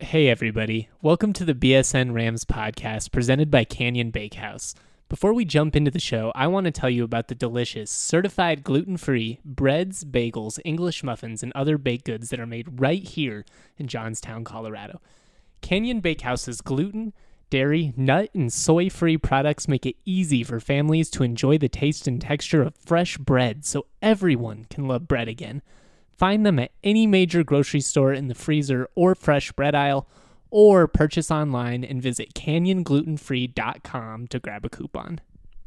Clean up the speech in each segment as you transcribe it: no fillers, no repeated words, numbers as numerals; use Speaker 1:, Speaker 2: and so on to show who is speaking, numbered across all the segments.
Speaker 1: Hey everybody, welcome to the BSN Rams podcast presented by Canyon Bakehouse. Before we jump into the show, I want to tell you about the delicious, certified gluten-free breads, bagels, English muffins, and other baked goods that are made right here in Johnstown, Colorado. Canyon Bakehouse's gluten, dairy, nut, and soy-free products make it easy for families to enjoy the taste and texture of fresh bread so everyone can love bread again. Find them at any major grocery store in the freezer or fresh bread aisle, or purchase online and visit canyonglutenfree.com to grab a coupon.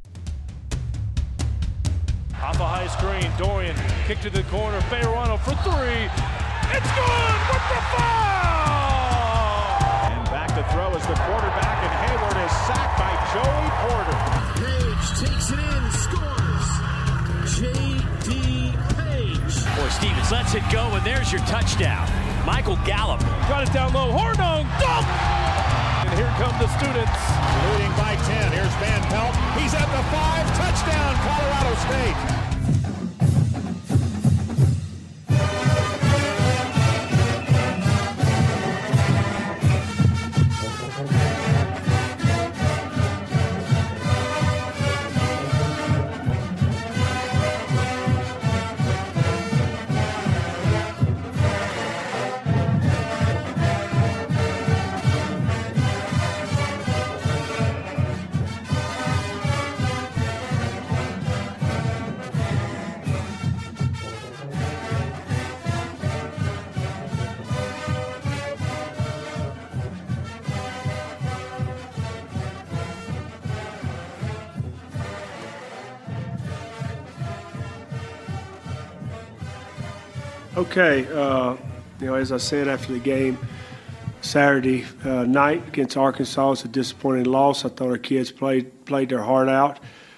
Speaker 2: Off a high screen, Dorian kick to the corner, Bejarano for three. It's good with the foul!
Speaker 3: And back to throw is the quarterback, and Hayward is sacked by Joey Porter.
Speaker 4: Page takes it in, scores. J.D. Page.
Speaker 5: Boy, Stevens lets it go, and there's your touchdown. Michael Gallup.
Speaker 2: Got it down low, Hornung, dunk! And here come the students.
Speaker 3: Leading by 10, here's Van Pelt. He's at the 5, touchdown, Colorado State.
Speaker 6: Okay, as I said after the game Saturday night against Arkansas, it's a disappointing loss. I thought our kids played their heart out.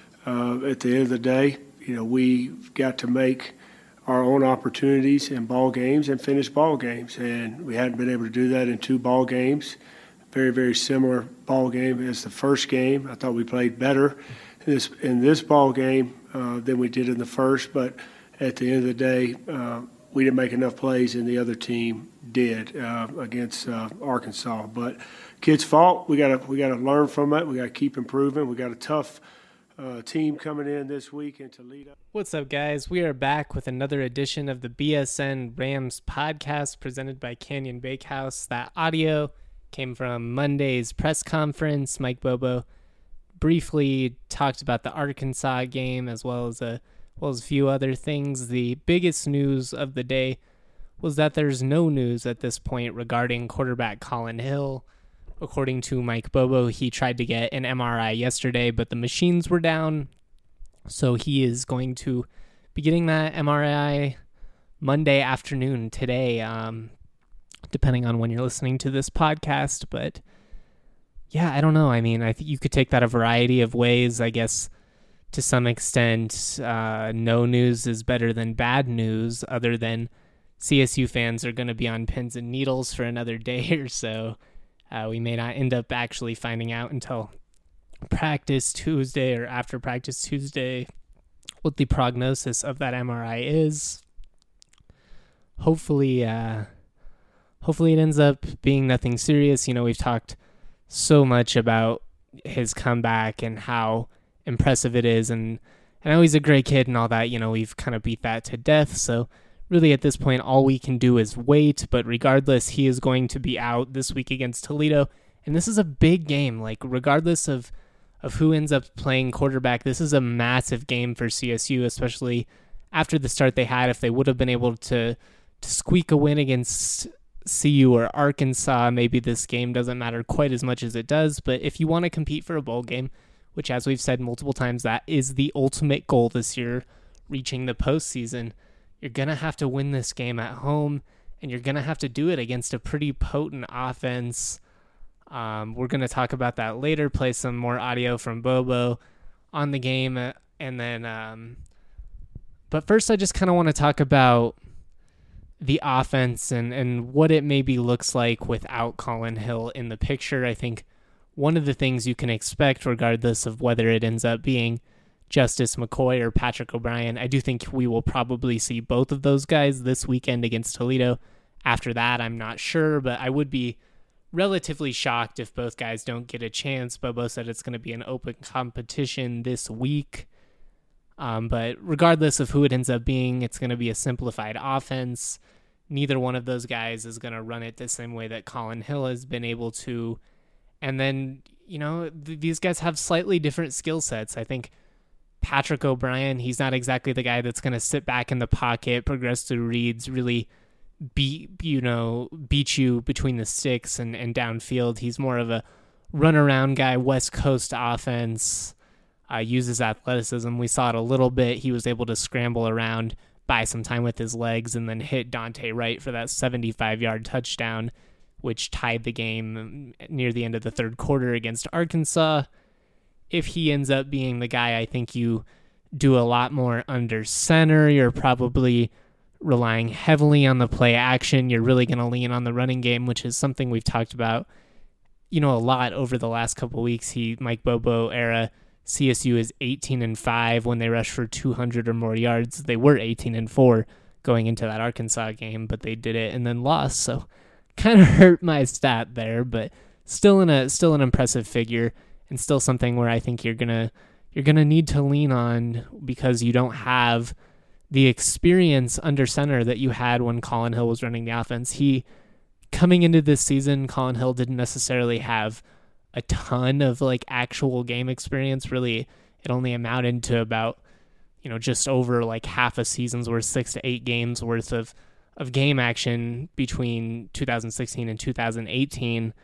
Speaker 6: At the end of the day, we've got to make our own opportunities in ball games and finish ball games, and we hadn't been able to do that in 2 ball games. Very, very similar ball game as the first game. I thought we played better in this ball game than we did in the first, but at the end of the day, we didn't make enough plays, and the other team did against Arkansas. But kids' fault. We got to learn from it. We got to keep improving. We got a tough team coming in this week in Toledo.
Speaker 1: What's up, guys? We are back with another edition of the BSN Rams podcast presented by Canyon Bakehouse. That audio came from Monday's press conference. Mike Bobo briefly talked about the Arkansas game as well as a few other things. The biggest news of the day was that there's no news at this point regarding quarterback Colin Hill. According to Mike Bobo, he tried to get an MRI yesterday, but the machines were down, so he is going to be getting that MRI Monday afternoon today, depending on when you're listening to this podcast. But yeah, I don't know. I mean, I think you could take that a variety of ways, I guess. To some extent, no news is better than bad news, other than CSU fans are going to be on pins and needles for another day or so. We may not end up actually finding out until practice Tuesday or after practice Tuesday what the prognosis of that MRI is. Hopefully it ends up being nothing serious. We've talked so much about his comeback and how impressive it is, and I know he's a great kid and all that. We've kind of beat that to death, so really at this point all we can do is wait. But regardless, he is going to be out this week against Toledo, and this is a big game. Regardless of who ends up playing quarterback, this is a massive game for CSU, especially after the start they had. If they would have been able to squeak a win against CU or Arkansas, maybe this game doesn't matter quite as much as it does. But if you want to compete for a bowl game, which, as we've said multiple times, that is the ultimate goal this year, reaching the postseason, you're going to have to win this game at home, and you're going to have to do it against a pretty potent offense. We're going to talk about that later, play some more audio from Bobo on the game, and then but first I just kind of want to talk about the offense and what it maybe looks like without Colin Hill in the picture. I think one of the things you can expect, regardless of whether it ends up being Justice McCoy or Patrick O'Brien, I do think we will probably see both of those guys this weekend against Toledo. After that, I'm not sure, but I would be relatively shocked if both guys don't get a chance. Bobo said it's going to be an open competition this week. But regardless of who it ends up being, it's going to be a simplified offense. Neither one of those guys is going to run it the same way that Colin Hill has been able to. And then, these guys have slightly different skill sets. I think Patrick O'Brien, he's not exactly the guy that's going to sit back in the pocket, progress through reads, really beat you between the sticks and downfield. He's more of a run-around guy, West Coast offense, uses athleticism. We saw it a little bit. He was able to scramble around, buy some time with his legs, and then hit Dante Wright for that 75-yard touchdown, which tied the game near the end of the third quarter against Arkansas. If he ends up being the guy, I think you do a lot more under center. You're probably relying heavily on the play action. You're really going to lean on the running game, which is something we've talked about, a lot over the last couple of weeks. Mike Bobo era, CSU is 18-5 when they rush for 200 or more yards. They were 18-4 going into that Arkansas game, but they did it and then lost. So kind of hurt my stat there, but still an impressive figure, and still something where I think you're gonna need to lean on, because you don't have the experience under center that you had when Colin Hill was running the offense. Coming into this season, Colin Hill didn't necessarily have a ton of actual game experience. Really, it only amounted to about, just over half a season's worth, 6 to 8 games worth of game action between 2016 and 2018.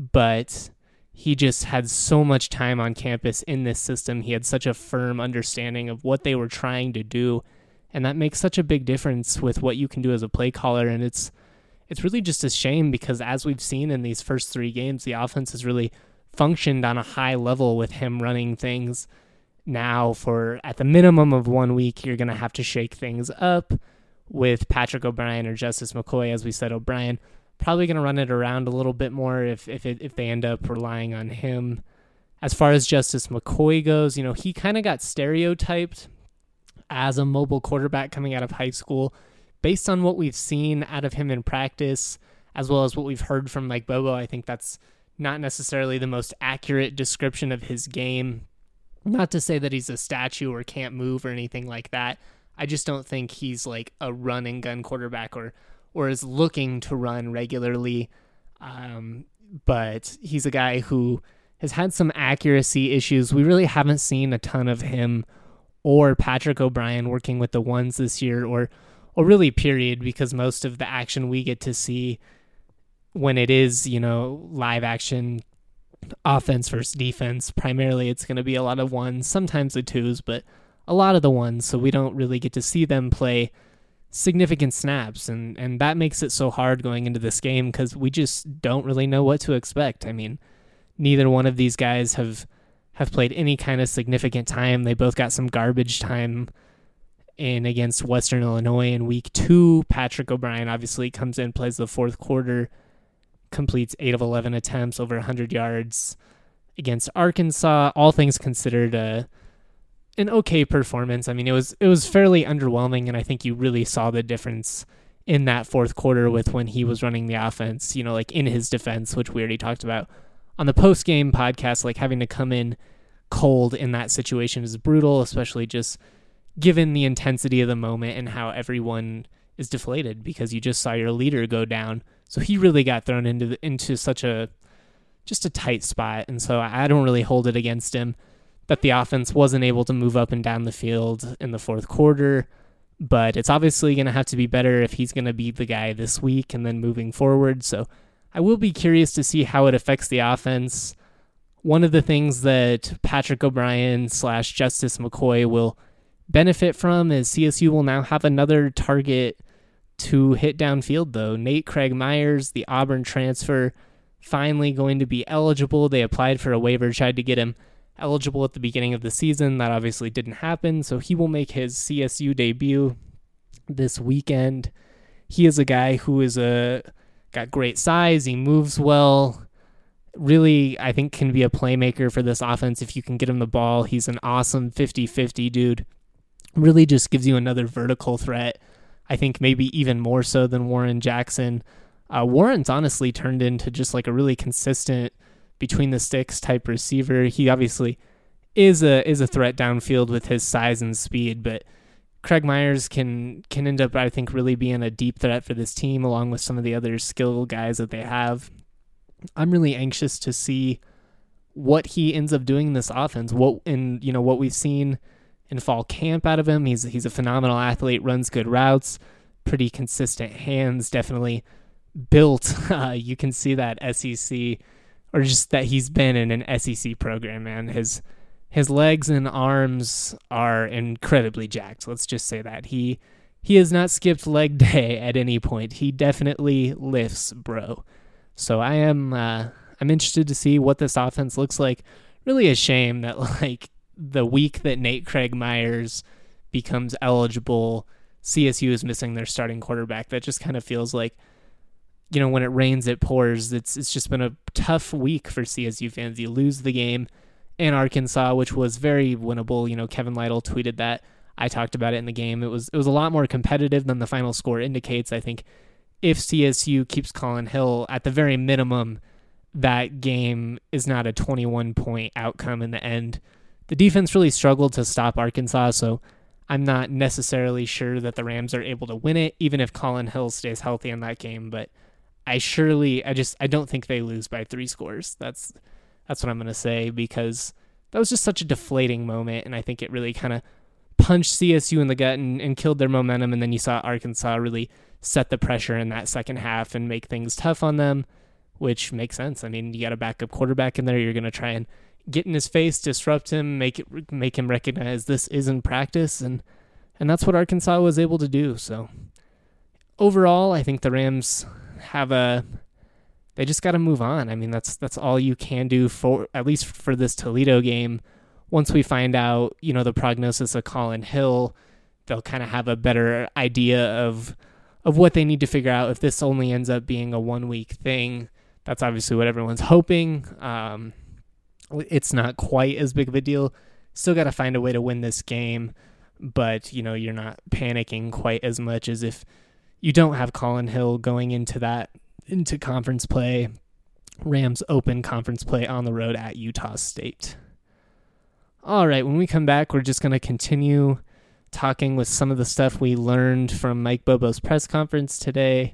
Speaker 1: But he just had so much time on campus in this system. He had such a firm understanding of what they were trying to do. And that makes such a big difference with what you can do as a play caller. And it's really just a shame, because as we've seen in these first 3 games, the offense has really functioned on a high level with him running things. Now, for at the minimum of 1 week, you're going to have to shake things up with Patrick O'Brien or Justice McCoy. As we said, O'Brien probably going to run it around a little bit more if they end up relying on him. As far as Justice McCoy goes, he kind of got stereotyped as a mobile quarterback coming out of high school based on what we've seen out of him in practice, as well as what we've heard from Mike Bobo. I think that's not necessarily the most accurate description of his game. Not to say that he's a statue or can't move or anything like that. I just don't think he's a run and gun quarterback or is looking to run regularly. But he's a guy who has had some accuracy issues. We really haven't seen a ton of him or Patrick O'Brien working with the ones this year, or really period, because most of the action we get to see when it is, live action offense versus defense, primarily it's going to be a lot of ones, sometimes the twos, but a lot of the ones. So we don't really get to see them play significant snaps. And that makes it so hard going into this game, because we just don't really know what to expect. I mean, neither one of these guys have played any kind of significant time. They both got some garbage time in against Western Illinois in week 2. Patrick O'Brien obviously comes in, plays the fourth quarter, completes 8 of 11 attempts, over 100 yards against Arkansas. All things considered, an okay performance. I mean, it was fairly underwhelming, and I think you really saw the difference in that fourth quarter with when he was running the offense, in his defense, which we already talked about on the post-game podcast. Having to come in cold in that situation is brutal, especially just given the intensity of the moment and how everyone is deflated because you just saw your leader go down. So he really got thrown into such a tight spot. And so I don't really hold it against him that the offense wasn't able to move up and down the field in the fourth quarter, but it's obviously going to have to be better if he's going to be the guy this week and then moving forward. So I will be curious to see how it affects the offense. One of the things that Patrick O'Brien / Justice McCoy will benefit from is CSU will now have another target to hit downfield, though. Nate Craig Myers, the Auburn transfer, finally going to be eligible. They applied for a waiver, tried to get him eligible at the beginning of the season. That obviously didn't happen, so he will make his CSU debut this weekend. He is a guy who is got great size. He moves well. Really, I think can be a playmaker for this offense if you can get him the ball. He's an awesome 50-50 dude. Really just gives you another vertical threat. I think maybe even more so than Warren Jackson. Warren's honestly turned into just like a really consistent between the sticks type receiver. He obviously is a threat downfield with his size and speed, but Craig Myers can end up, I think, really being a deep threat for this team along with some of the other skill guys that they have. I'm really anxious to see what he ends up doing in this offense. What we've seen in fall camp out of him. He's a phenomenal athlete, runs good routes, pretty consistent hands, definitely built. You can see that SEC, or just that he's been in an SEC program, man. His legs and arms are incredibly jacked. Let's just say that. He has not skipped leg day at any point. He definitely lifts, bro. So I'm interested to see what this offense looks like. Really a shame that like the week that Nate Craig Myers becomes eligible, CSU is missing their starting quarterback. That just kind of feels like, when it rains, it pours. It's just been a tough week for CSU fans. You lose the game in Arkansas, which was very winnable. Kevin Lytle tweeted that. I talked about it in the game. It was a lot more competitive than the final score indicates. I think if CSU keeps Colin Hill, at the very minimum, that game is not a 21-point outcome in the end. The defense really struggled to stop Arkansas, so I'm not necessarily sure that the Rams are able to win it, even if Colin Hill stays healthy in that game. But I don't think they lose by 3 scores. That's what I'm going to say, because that was just such a deflating moment, and I think it really kind of punched CSU in the gut and killed their momentum, and then you saw Arkansas really set the pressure in that second half and make things tough on them, which makes sense. I mean, you got a backup quarterback in there. You're going to try and get in his face, disrupt him, make him recognize this isn't practice, and that's what Arkansas was able to do. So overall, I think the Rams they just got to move on. I mean, that's all you can do for, at least for this Toledo game. Once we find out, the prognosis of Colin Hill, they'll kind of have a better idea of what they need to figure out. If this only ends up being a 1-week thing, that's obviously what everyone's hoping. It's not quite as big of a deal. Still got to find a way to win this game, but you're not panicking quite as much as if you don't have Colin Hill going into conference play. Rams open conference play on the road at Utah State. All right, when we come back, we're just going to continue talking with some of the stuff we learned from Mike Bobo's press conference today,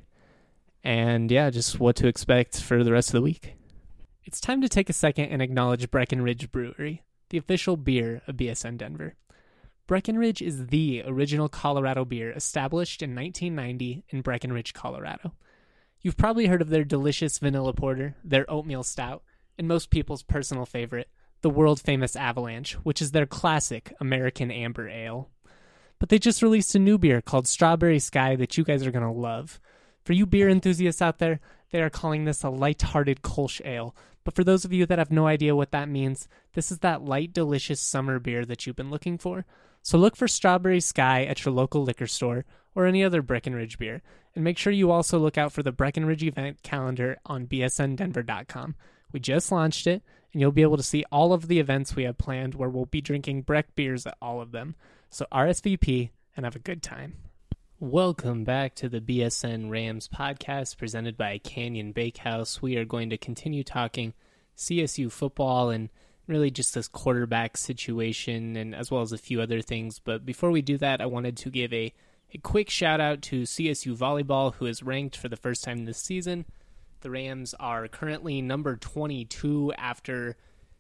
Speaker 1: and just what to expect for the rest of the week. It's time to take a second and acknowledge Breckenridge Brewery, the official beer of BSN Denver. Breckenridge is the original Colorado beer established in 1990 in Breckenridge, Colorado. You've probably heard of their delicious vanilla porter, their oatmeal stout, and most people's personal favorite, the world-famous Avalanche, which is their classic American Amber Ale. But they just released a new beer called Strawberry Sky that you guys are going to love. For you beer enthusiasts out there, they are calling this a light-hearted Kolsch Ale. But for those of you that have no idea what that means, this is that light, delicious summer beer that you've been looking for. So look for Strawberry Sky at your local liquor store or any other Breckenridge beer. And make sure you also look out for the Breckenridge event calendar on bsndenver.com. We just launched it, and you'll be able to see all of the events we have planned where we'll be drinking Breck beers at all of them. So RSVP and have a good time. Welcome back to the BSN Rams podcast presented by Canyon Bakehouse. We are going to continue talking CSU football and really just this quarterback situation, and as well as a few other things. But before we do that, I wanted to give a quick shout out to CSU Volleyball, who is ranked for the first time this season. The Rams are currently number 22 after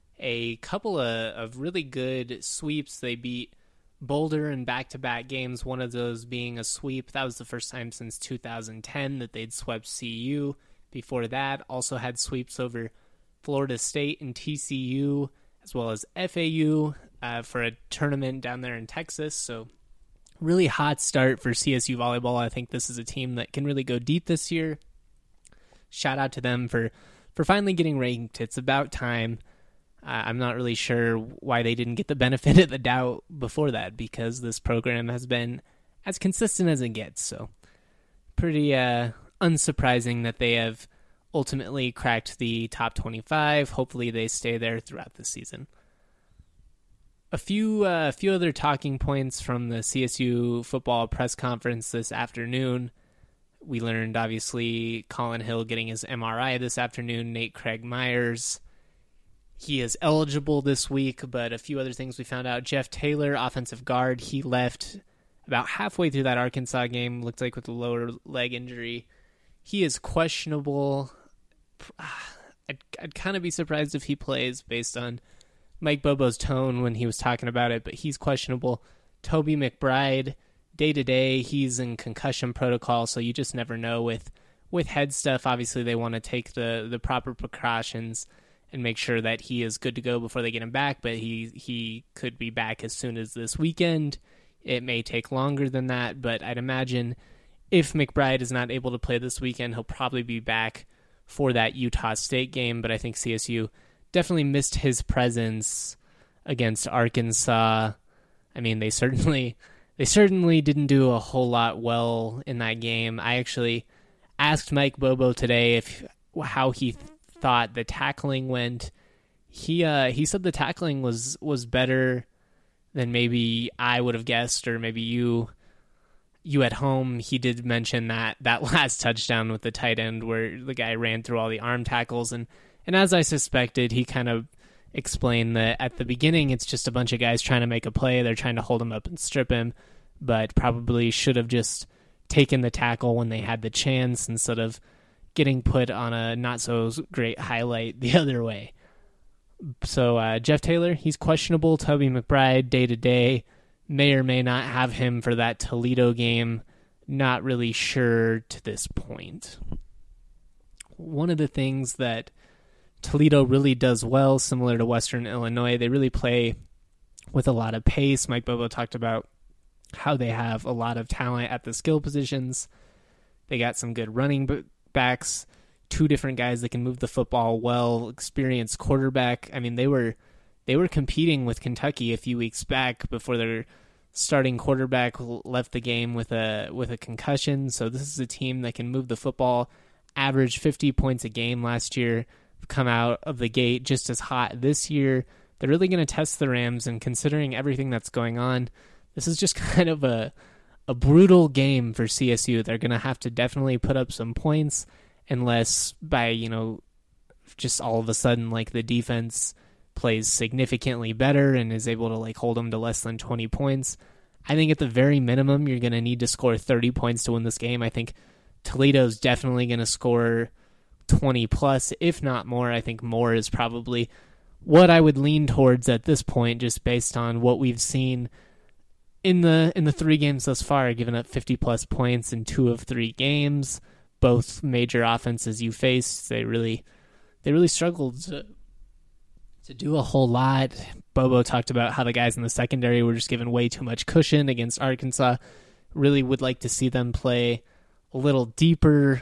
Speaker 1: a couple of really good sweeps. They beat Boulder in back-to-back games, one of those being a sweep. That was the first time since 2010 that they'd swept CU. Before that, also had sweeps over Florida State and TCU, as well as FAU for a tournament down there in Texas. So really hot start for CSU Volleyball. I think this is a team that can really go deep this year. Shout out to them for finally getting ranked. It's about time. I'm not really sure why they didn't get the benefit of the doubt before that, because this program has been as consistent as it gets. So pretty unsurprising that they have ultimately cracked the top 25. Hopefully they stay there throughout the season. A few other talking points from the CSU football press conference this afternoon. We learned, obviously, Colin Hill getting his MRI this afternoon. Nate Craig Myers, he is eligible this week, but a few other things we found out. Jeff Taylor, offensive guard, he left about halfway through that Arkansas game, looked like with a lower leg injury. He is questionable. I'd kind of be surprised if he plays based on Mike Bobo's tone when he was talking about it, but he's questionable. Toby McBride, day-to-day, he's in concussion protocol, so you just never know with head stuff. Obviously, they want to take the proper precautions and make sure that he is good to go before they get him back, but he could be back as soon as this weekend. It may take longer than that, but I'd imagine if McBride is not able to play this weekend, he'll probably be back for that Utah State game, but I think CSU definitely missed his presence against Arkansas. I mean, they certainly didn't do a whole lot well in that game. I actually asked Mike Bobo today how he thought the tackling went. He said the tackling was better than maybe I would have guessed, or maybe you at home. He did mention that last touchdown with the tight end where the guy ran through all the arm tackles, and as I suspected, he kind of explained that at the beginning it's just a bunch of guys trying to make a play. They're trying to hold him up and strip him, but probably should have just taken the tackle when they had the chance instead of getting put on a not so great highlight the other way. So Jeff Taylor, he's questionable. Toby McBride, day-to-day, may or may not have him for that Toledo game. Not really sure to this point. One of the things that Toledo really does well, similar to Western Illinois, they really play with a lot of pace. Mike Bobo talked about how they have a lot of talent at the skill positions. They got some good running backs, two different guys that can move the football well, experienced quarterback. I mean, they were competing with Kentucky a few weeks back before their starting quarterback left the game with a concussion. So this is a team that can move the football, averaged 50 points a game last year, come out of the gate just as hot this year. They're really going to test the Rams, and considering everything that's going on, this is just kind of a brutal game for CSU. They're going to have to definitely put up some points, unless by, just all of a sudden, like, the defense plays significantly better and is able to, like, hold them to less than 20 points. I think at the very minimum, you're going to need to score 30 points to win this game. I think Toledo's definitely going to score 20 plus, if not more. I think more is probably what I would lean towards at this point, just based on what we've seen in the 3 games thus far, giving up 50 plus points in 2 of 3 games. Both major offenses you faced, they really struggled to do a whole lot. Bobo talked about how the guys in the secondary were just given way too much cushion against Arkansas. Really would like to see them play a little deeper.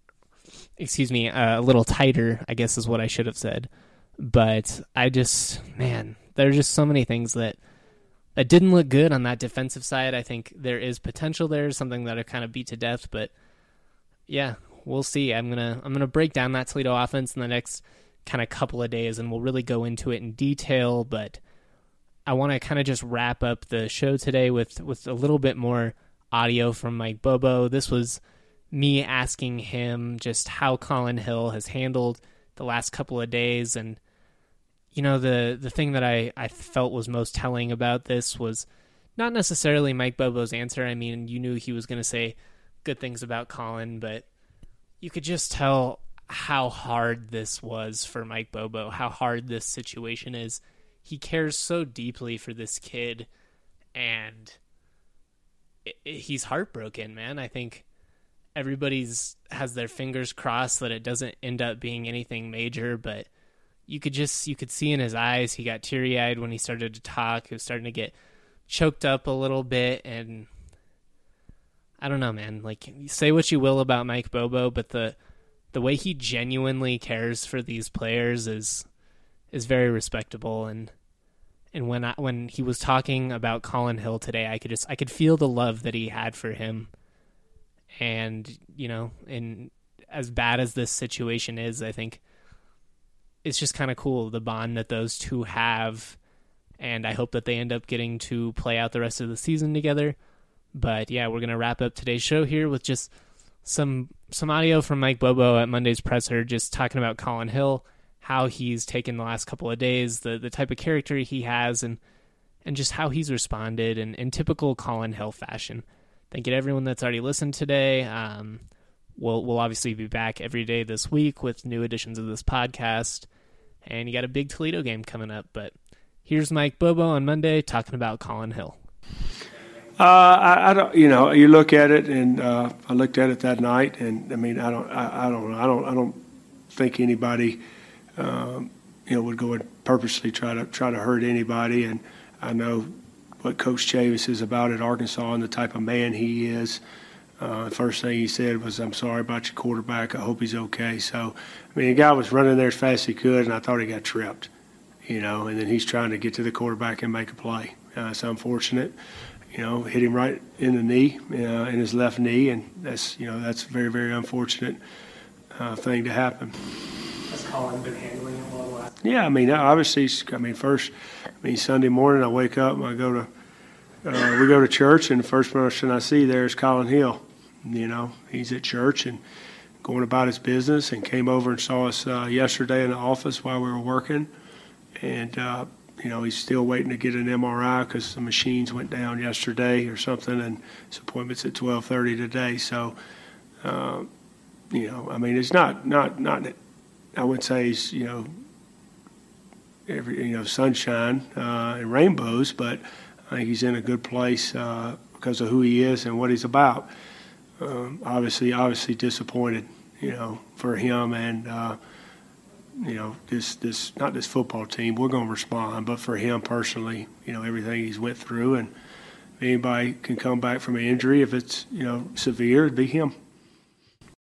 Speaker 1: A little tighter, I guess is what I should have said. But there are just so many things that didn't look good on that defensive side. I think there is potential there, something that I kind of beat to death, but yeah, we'll see. I'm gonna break down that Toledo offense in the next kind of couple of days, and we'll really go into it in detail, but I want to kind of just wrap up the show today with a little bit more audio from Mike Bobo. This was me asking him just how Colin Hill has handled the last couple of days. And, the thing that I felt was most telling about this was not necessarily Mike Bobo's answer. I mean, you knew he was going to say good things about Colin, but you could just tell how hard this was for Mike Bobo, how hard this situation is. He cares so deeply for this kid, and he's heartbroken, man. I think everybody's has their fingers crossed that it doesn't end up being anything major, but you could see in his eyes, he got teary-eyed when he started to talk. He was starting to get choked up a little bit, and I don't know, man. Like, say what you will about Mike Bobo, but the way he genuinely cares for these players is very respectable. And when he was talking about Colin Hill today, I could feel the love that he had for him. And, and as bad as this situation is, I think it's just kind of cool, the bond that those two have. And I hope that they end up getting to play out the rest of the season together. But yeah, we're going to wrap up today's show here with just some audio from Mike Bobo at Monday's presser, just talking about Colin Hill, how he's taken the last couple of days, the type of character he has, and just how he's responded in typical Colin Hill fashion. Thank you to everyone that's already listened today. We'll obviously be back every day this week with new editions of this podcast. And you got a big Toledo game coming up. But here's Mike Bobo on Monday talking about Colin Hill.
Speaker 6: I don't, you look at it, and I looked at it that night, and I mean, I don't think anybody, would go and purposely try to hurt anybody. And I know what Coach Chavis is about at Arkansas and the type of man he is. The first thing he said was, "I'm sorry about your quarterback. I hope he's okay." So, I mean, the guy was running there as fast as he could, and I thought he got tripped, and then he's trying to get to the quarterback and make a play. It's unfortunate, hit him right in the knee, in his left knee, and that's a very, very unfortunate thing to happen.
Speaker 1: Has Colin been handling it well?
Speaker 6: Yeah, I mean, obviously, Sunday morning I wake up and we go to church, and the first person I see there is Colin Hill. He's at church and going about his business, and came over and saw us yesterday in the office while we were working. And, he's still waiting to get an MRI because the machines went down yesterday or something, and his appointment's at 12:30 today. So, it's not I would say he's, sunshine and rainbows, but I think he's in a good place because of who he is and what he's about. Obviously disappointed, for him and, this not this football team. We're going to respond, but for him personally, everything he's went through, and if anybody can come back from an injury, if it's, severe, it'd be him.